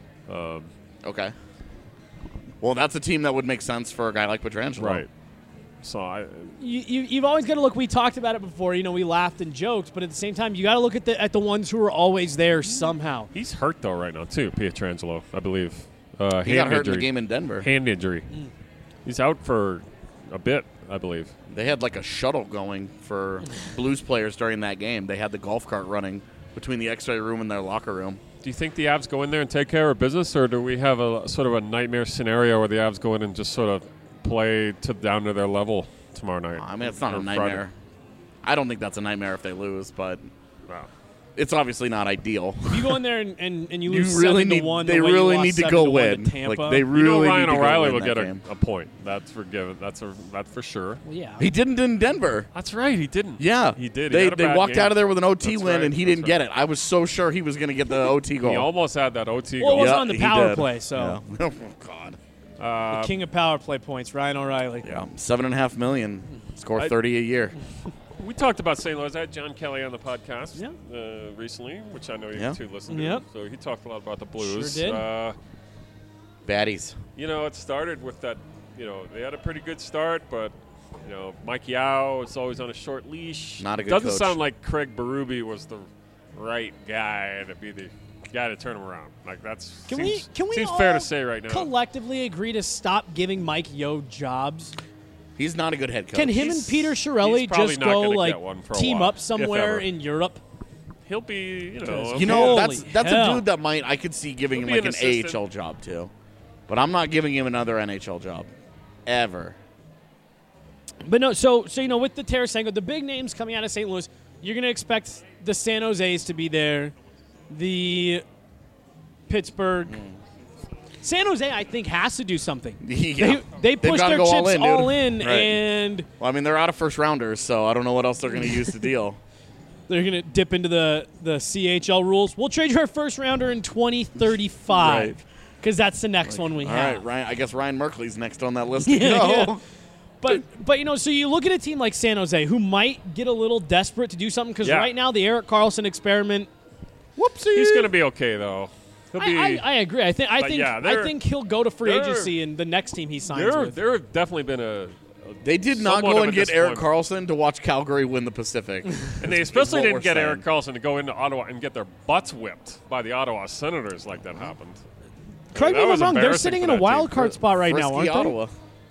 Okay. Well, that's a team that would make sense for a guy like Pietrangelo. Right. So you've always got to look. We talked about it before. We laughed and joked, but at the same time, you got to look at the ones who are always there somehow. He's hurt though right now too, Pietrangelo, I believe. He got hurt in the game in Denver. Hand injury. He's out for a bit, I believe. They had like a shuttle going for Blues players during that game. They had the golf cart running between the X-ray room and their locker room. Do you think the Avs go in there and take care of business, or do we have a sort of a nightmare scenario where the Avs go in and just sort of play down to their level tomorrow night? I mean, it's not a nightmare. I don't think that's a nightmare if they lose, but wow. It's obviously not ideal. If you go in there and you lose really 7-1, they really need to go win. Tampa, they really Ryan need to O'Reilly go will win get that a point. That's forgiven. That's for sure. Well, yeah, he didn't in Denver. That's right. He didn't. Yeah, he did. They walked out of there with an OT win, and he didn't get it. I was so sure he was going to get the OT goal. He almost had that OT well, goal. It was on the power play, so. Yeah. Oh God. The king of power play points, Ryan O'Reilly. Yeah, $7.5 million. Score 30 a year. We talked about St. Louis. I had John Kelly on the podcast recently, which I know you two listened to. So he talked a lot about the Blues. Sure did. Baddies. It started with that. They had a pretty good start, but Mike Yao is always on a short leash. Not a good Doesn't coach. sound like Craig Berube was the right guy to be the guy to turn him around. Like seems fair to say right now. Collectively agree to stop giving Mike Yeo jobs. He's not a good head coach. Can him and Peter Chiarelli just go team up somewhere in Europe? He'll be, that's a dude that I could see giving him like an AHL job too. But I'm not giving him another NHL job. Ever. But no, so with the Tarasenko, the big names coming out of St. Louis, you're going to expect the San Jose's to be there, the Pittsburgh. San Jose, I think, has to do something. Yeah. They push their chips all in, right. and well, I mean, they're out of first rounders, so I don't know what else they're going to use to deal. They're going to dip into the CHL rules. We'll trade you our first rounder in 2035 because that's the next one we have. All right, Ryan. I guess Ryan Merkley's next on that list. Yeah. But so you look at a team like San Jose who might get a little desperate to do something because right now the Erik Karlsson experiment. Whoopsie. He's going to be okay though. I agree. I think he'll go to free agency in the next team he signs with. There have definitely been They did not go and get Erik Karlsson to watch Calgary win the Pacific. And they especially didn't get Erik Karlsson to go into Ottawa and get their butts whipped by the Ottawa Senators like that happened. Correct me if I'm wrong. They're sitting in a wild card spot right now, aren't Ottawa.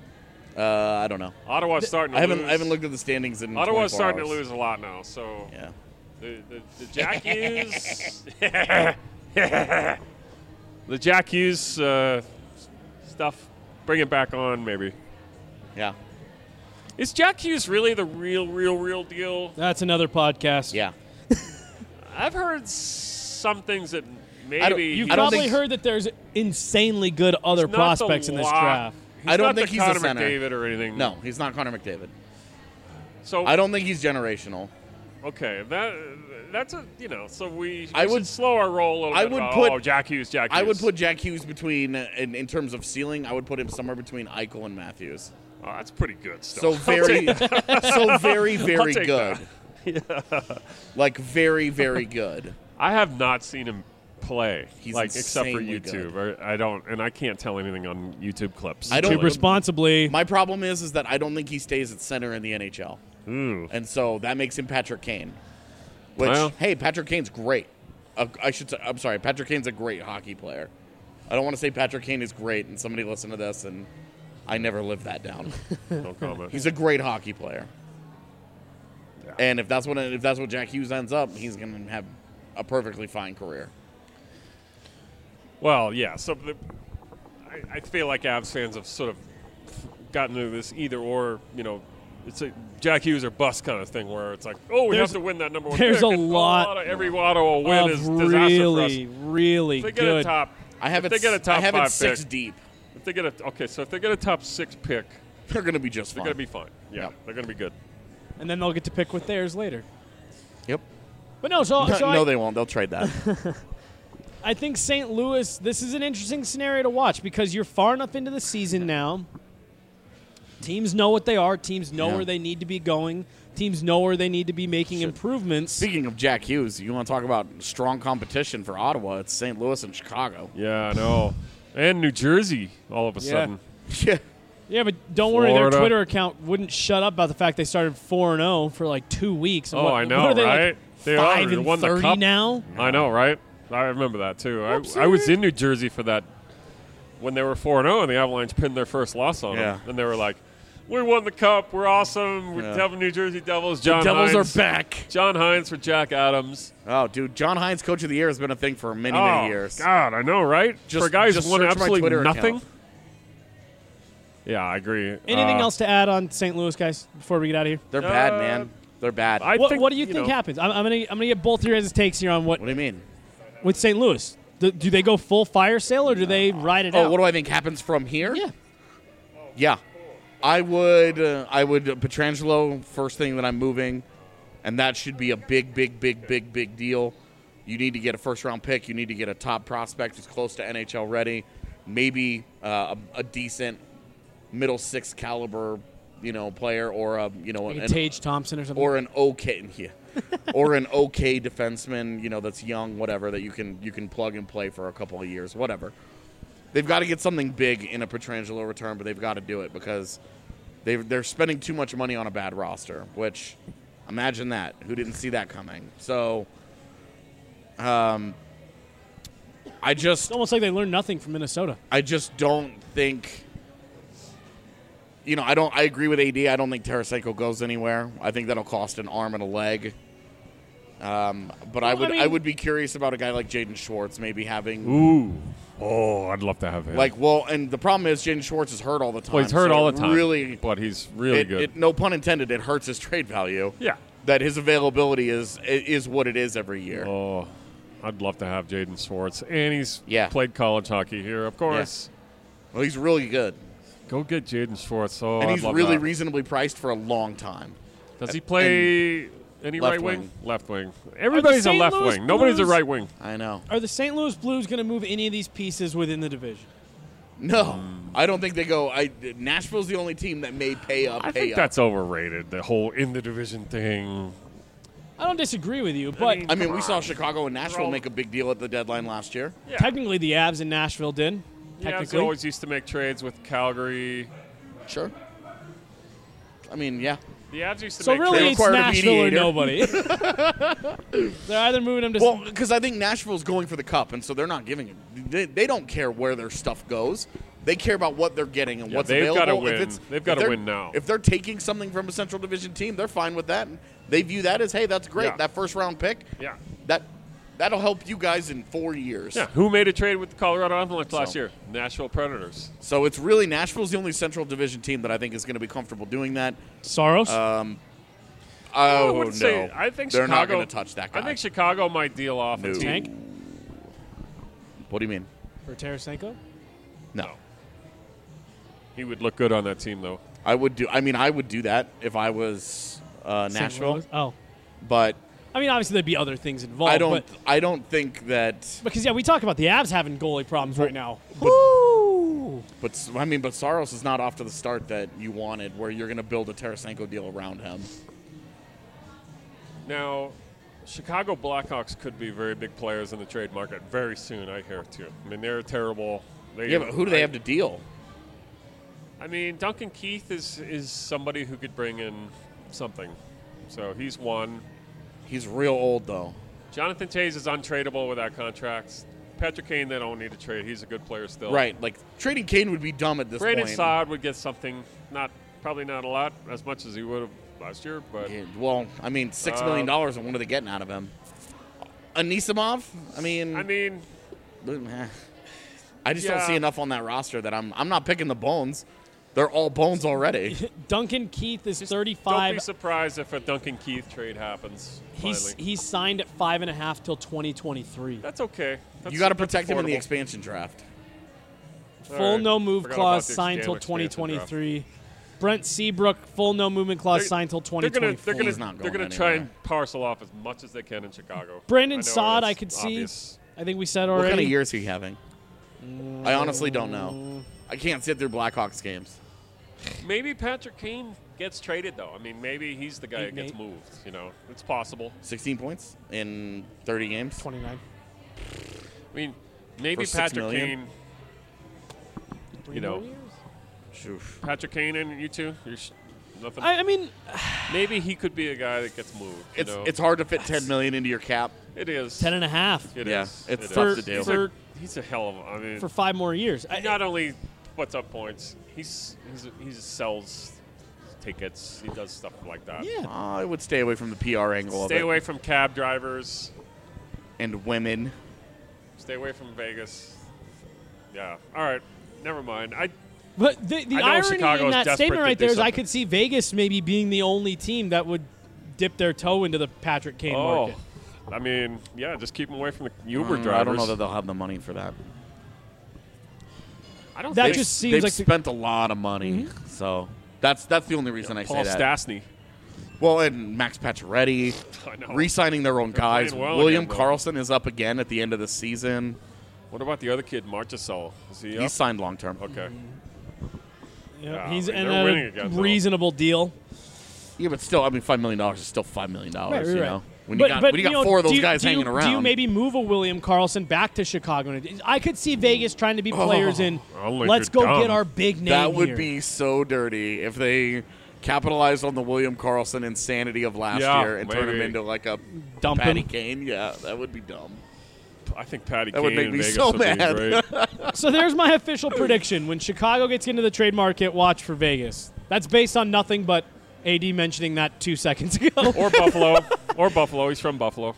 I don't know. Ottawa's starting to lose. I haven't looked at the standings in Ottawa's starting hours. to lose a lot now. So yeah. The Jack Hughes the Jack Hughes stuff Bring it back on, maybe. Yeah. Is Jack Hughes really the real deal? That's another podcast. Yeah. I've heard some things that I don't- maybe You've I don't probably think- heard that there's insanely good other he's not the prospects in this lock. draft. I don't not think the he's a Connor center. McDavid or anything. No, he's not Connor McDavid. So I don't think he's generational. okay, that's a so we I would- should slow our roll a little I bit. would about, put- Jack Hughes. I would put Jack Hughes between, in terms of ceiling, I would put him somewhere between Eichel and Matthews. Oh, that's pretty good So stuff. very, very I'll take good. that. Like very, very good. I have not seen him play, He's except for insanely YouTube. I don't, and I can't tell anything on YouTube clips. I don't- Too responsibly. My problem is that I don't think he stays at center in the NHL. Ooh. And so that makes him Patrick Kane. Which, Well- hey, Patrick Kane's great. I'm sorry, Patrick Kane's a great hockey player. I don't want to say Patrick Kane is great and somebody listen to this and I never lived that down. No comment. He's a great hockey player. And if that's what Jack Hughes ends up, he's going to have a perfectly fine career. Well, yeah. So I feel like Avs fans have sort of gotten into this either or. It's a Jack Hughes or bust kind of thing where it's like, oh, we have to win that number one. There's pick, a and lot of every Ottawa win of is disaster for us. really If they get a good. top, I have if it they get a top I have five it 6 pick, deep. if they get so if they get a top 6 pick, They're going to be just they're fine. going to be fine. Yeah, Yep. they're going to be good. And then they'll get to pick with theirs later. Yep. But no, so No, they won't. They'll trade that. I think St. Louis, this is an interesting scenario to watch because you're far enough into the season now. Teams know what they are. Teams know Yeah. where they need to be going. Teams know where they need to be making improvements. Speaking of Jack Hughes, you want to talk about strong competition for Ottawa? It's St. Louis and Chicago. Yeah, I know. And New Jersey, all of a sudden. Yeah. Yeah, but don't worry, their Florida. Twitter account wouldn't shut up about the fact they started 4-0 for like 2 weeks. And Oh, what, I know, what are they, right? Like They are. 5 They and won the 30 cup. now? I know, right? I remember that too. I was in New Jersey for that when they were 4-0 and the Avalanche pinned their first loss on them. And they were like, we won the cup. We're awesome. We're Devil New Jersey Devils. John Devils Hines. are back. John Hines for Jack Adams. Oh, dude, John Hines, Coach of the Year, has been a thing for many years. God, I know, right? For a guy who's just won search my absolutely Twitter nothing. account. Yeah, I agree. Anything else to add on St. Louis, guys, before we get out of here? They're bad, man. They're bad. What do you think happens? I'm gonna get both your guys' takes here on what do you mean? With St. Louis. Do they go full fire sale or do they ride it out? Oh, what do I think happens from here? Yeah. Yeah. I would Pietrangelo first thing that I'm moving, and that should be a big deal. You need to get a first-round pick. You need to get a top prospect who's close to NHL ready, maybe a decent middle six caliber, player, or Like a Tage Thompson or something, or an okay, or an okay defenseman, that's young, whatever, that you can plug and play for a couple of years, whatever. They've got to get something big in a Pietrangelo return, but they've got to do it because they're spending too much money on a bad roster, which, imagine that. Who didn't see that coming? So, it's almost like they learned nothing from Minnesota. I just don't think, I agree with AD. I don't think Tarasenko goes anywhere. I think that'll cost an arm and a leg. But I would be curious about a guy like Jaden Schwartz maybe having. Ooh. Oh, I'd love to have him. And the problem is Jaden Schwartz is hurt all the time. Well, he's hurt all the time. Really, but he's really good. No pun intended. It hurts his trade value. Yeah. That his availability is what it is every year. Oh, I'd love to have Jaden Schwartz, and he's played college hockey here, of course. Yeah. Well, he's really good. Go get Jaden Schwartz. Oh, and I'd he's love really that. reasonably priced for a long time. Does he play any left right wing? wing. Left wing. Everybody's a St. left Louis wing. Nobody's a Blues- right wing. I know. Are the St. Louis Blues going to move any of these pieces within the division? No, I don't think they go. Nashville's the only team that may pay up. I think that's overrated, the whole in the division thing. I don't disagree with you, but I mean, we saw Chicago and Nashville make a big deal at the deadline last year. Yeah. technically the Avs in Nashville did. Yeah, they Technically. always used to make trades with Calgary. Sure. I mean, yeah. The Avs used to So make really trades. it's required a Nashville or mediator. nobody. They're either moving them to... Well, because I think Nashville's going for the cup, and so they're not giving it. They don't care where their stuff goes. They care about what they're getting and what's they've available. gotta win. If it's, They've if gotta they're- win now. If they're taking something from a Central Division team, they're fine with that. They view that as, hey, that's great. Yeah. That first round pick. Yeah. That'll help you guys in 4 years. Yeah, who made a trade with the Colorado Avalanche last So- year? Nashville Predators. So it's really Nashville's the only Central Division team that I think is going to be comfortable doing that. Soros? I Oh, wouldn't no. say. I think They're not Chicago, going to touch that guy. I think Chicago might deal off No. a team. Tank? What do you mean? For Tarasenko? No. He would look good on that team, though. I would do that if I was St. Nashville. Louis? Oh. But I mean, obviously there'd be other things involved. I don't think that. Because, we talk about the Avs having goalie problems right now. But- Woo! But Saros is not off to the start that you wanted, where you're going to build a Tarasenko deal around him. Now, Chicago Blackhawks could be very big players in the trade market very soon, I hear, too. I mean, they're terrible. Yeah, but who do they have to deal? I mean, Duncan Keith is somebody who could bring in something. So he's one. He's real old, though. Jonathan Toews is untradeable with that contract. Patrick Kane, they don't need to trade. He's a good player still. Right. Like, trading Kane would be dumb at this Brandon point. Saad would get something, probably not a lot, as much as he would have last year. But Yeah, well, I mean, $6 million, and what are they getting out of him? Anisimov? I mean, I just don't see enough on that roster that I'm not picking the bones. They're all bones already. Duncan Keith is don't 35. be surprised if a Duncan Keith trade happens. He's signed at 5.5 till 2023. That's okay. You got to protect him in the affordable. expansion draft. Full no move Forgot clause about the signed till expansion draft. 2023. Brent Seabrook, full no movement clause signed till 2024. He's not They're going gonna try anywhere. and parcel off as much as they can in Chicago. Brandon I know Saad, that's I could see. obvious. I think we said What already. kind of year is he having? I honestly don't know. I can't sit through Blackhawks games. Maybe Patrick Kane gets traded though. I mean, maybe he's the guy that gets 8-8. moved. You know, it's possible. 16 points in 30 games. 29. I mean, maybe For $6 Patrick million? Kane. Three You know, more years? Oof. Patrick Kane and you two. Nothing. I mean, Maybe he could be a guy that gets moved. You know? It's hard to fit 10 million into your cap. It is. 10.5 It Yeah, is. it's It tough is. to do. for He's a hell of. I mean, for 5 more years. he not only puts up points, he sells tickets. He does stuff like that. Yeah. I would stay away from the PR angle Stay of it. away from cab drivers. And women. Stay away from Vegas. Yeah. All right. Never mind. But the I know irony Chicago's in that desperate statement to right do there is I something. could see Vegas maybe being the only team that would dip their toe into the Patrick Kane market. I mean, yeah. Just keep him away from the Uber drivers. I don't know that they'll have the money for that. I don't That think just seems They've like spent a lot of money, so that's the only reason I Paul say that. Stastny. Well, and Max Pacioretty, I know. re-signing their own They're guys. playing well William again, though. Karlsson is up again at the end of the season. What about the other kid, Marchessault? Is he up? He's signed long term. Okay. Yeah, Yeah, he's I mean, in they're winning a again, though. reasonable deal. Yeah, but still, I mean, $5 million is still $5 million. Right, you right. know, when you got four of those guys hanging around. Do you maybe move a William Karlsson back to Chicago? I could see Vegas trying to be players in. Only Let's you're go dumb. get our big name. That would here. be so dirty if they capitalized on the William Karlsson insanity of last Yeah, year and turned him maybe. into like a Dump Patty him. Kane. Yeah, that would be dumb. I think Patty That Kane would make in me Vegas so would be mad. great. So there's my official prediction. When Chicago gets into the trade market, watch for Vegas. That's based on nothing but AD mentioning that 2 seconds ago. Or Buffalo. Or Buffalo. He's from Buffalo.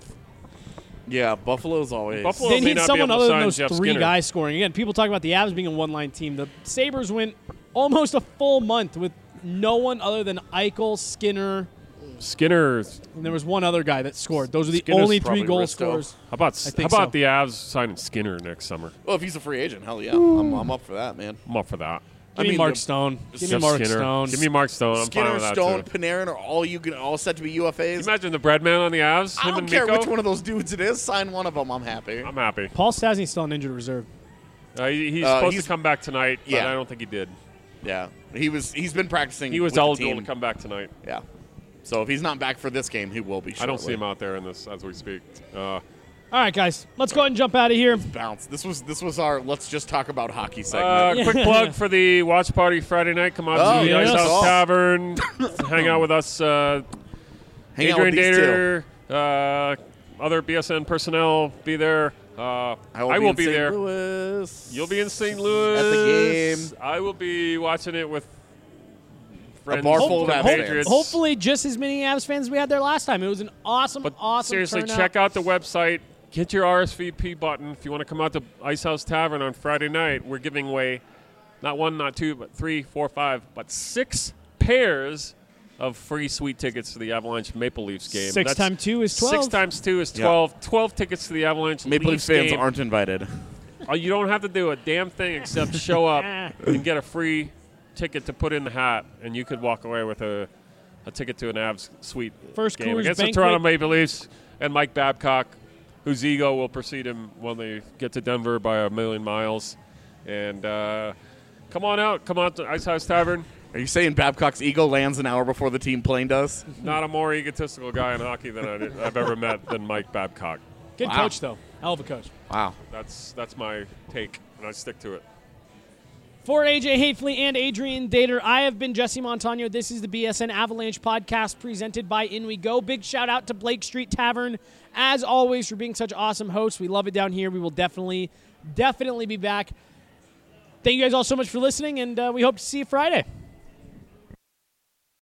Yeah, Buffalo's always. Buffalo They may need not be someone able to other than sign those Jeff three Skinner. guys scoring. Again, people talk about the Avs being a one-line team. The Sabres went almost a full month with no one other than Eichel, Skinner, Skinner's. and there was one other guy that scored. Those are the Skinner's only 3 probably goal Risto. scorers. How about think how about so. the Avs signing Skinner next summer? Well, if he's a free agent, hell yeah, I'm up for that, man. I'm up for that. Give me mean, Mark the- Stone. Give me Jeff Mark Skinner. Stone. Give me Mark Stone. I'm fine Skinner, with that Stone, too. Panarin are all set to be UFAs. Imagine the breadman on the Avs. I Him don't and care Mikko. which one of those dudes it is. Sign one of them. I'm happy. I'm happy. Paul Stastny's still on injured reserve. He's supposed he's- to come back tonight, but Yeah. I don't think he did. Yeah, he's been practicing. He was with the eligible team. to come back tonight. Yeah. So if he's not back for this game, he will be. I don't see shortly. him out there in this as we speak. All right, guys, let's go ahead and jump out of here. Bounce. This was our let's just talk about hockey segment. Quick plug for the watch party Friday night. Come out Oh, to the yes. Ice House Oh. Tavern. Hang out with us. Hang out Adrian with these two. Dater, other BSN personnel be there. I will be in St. there. Louis. You'll be in St. Louis At the game. I will be watching it with friends. bar full of the Avs Patriots. Hopefully, just as many Avs fans as we had there last time. It was an awesome, But awesome seriously, turnout. check out the website. Get your RSVP button. If you want to come out to Ice House Tavern on Friday night, we're giving away not 1, not 2, but 3, 4, 5, but 6 pairs of free suite tickets to the Avalanche Maple Leafs game. 6 times 2 is 12. 6 times 2 is 12. 12 tickets to the Avalanche Maple Leafs Leafs fans game. aren't invited. You don't have to do a damn thing except show up and get a free ticket to put in the hat, and you could walk away with a ticket to an Avs suite First game Coors against Banquet. the Toronto Maple Leafs and Mike Babcock, whose ego will precede him when they get to Denver by a million miles. And come on out. Come out to Ice House Tavern. Are you saying Babcock's ego lands an hour before the team plane does? Not a more egotistical guy in hockey than I've ever met than Mike Babcock. Good Wow. coach, though. Hell of a coach. Wow. That's my take, and I stick to it. For AJ Hatefley and Adrian Dater, I have been Jesse Montano. This is the BSN Avalanche podcast presented by In We Go. Big shout out to Blake Street Tavern, as always, for being such awesome hosts. We love it down here. We will definitely be back. Thank you guys all so much for listening, and we hope to see you Friday.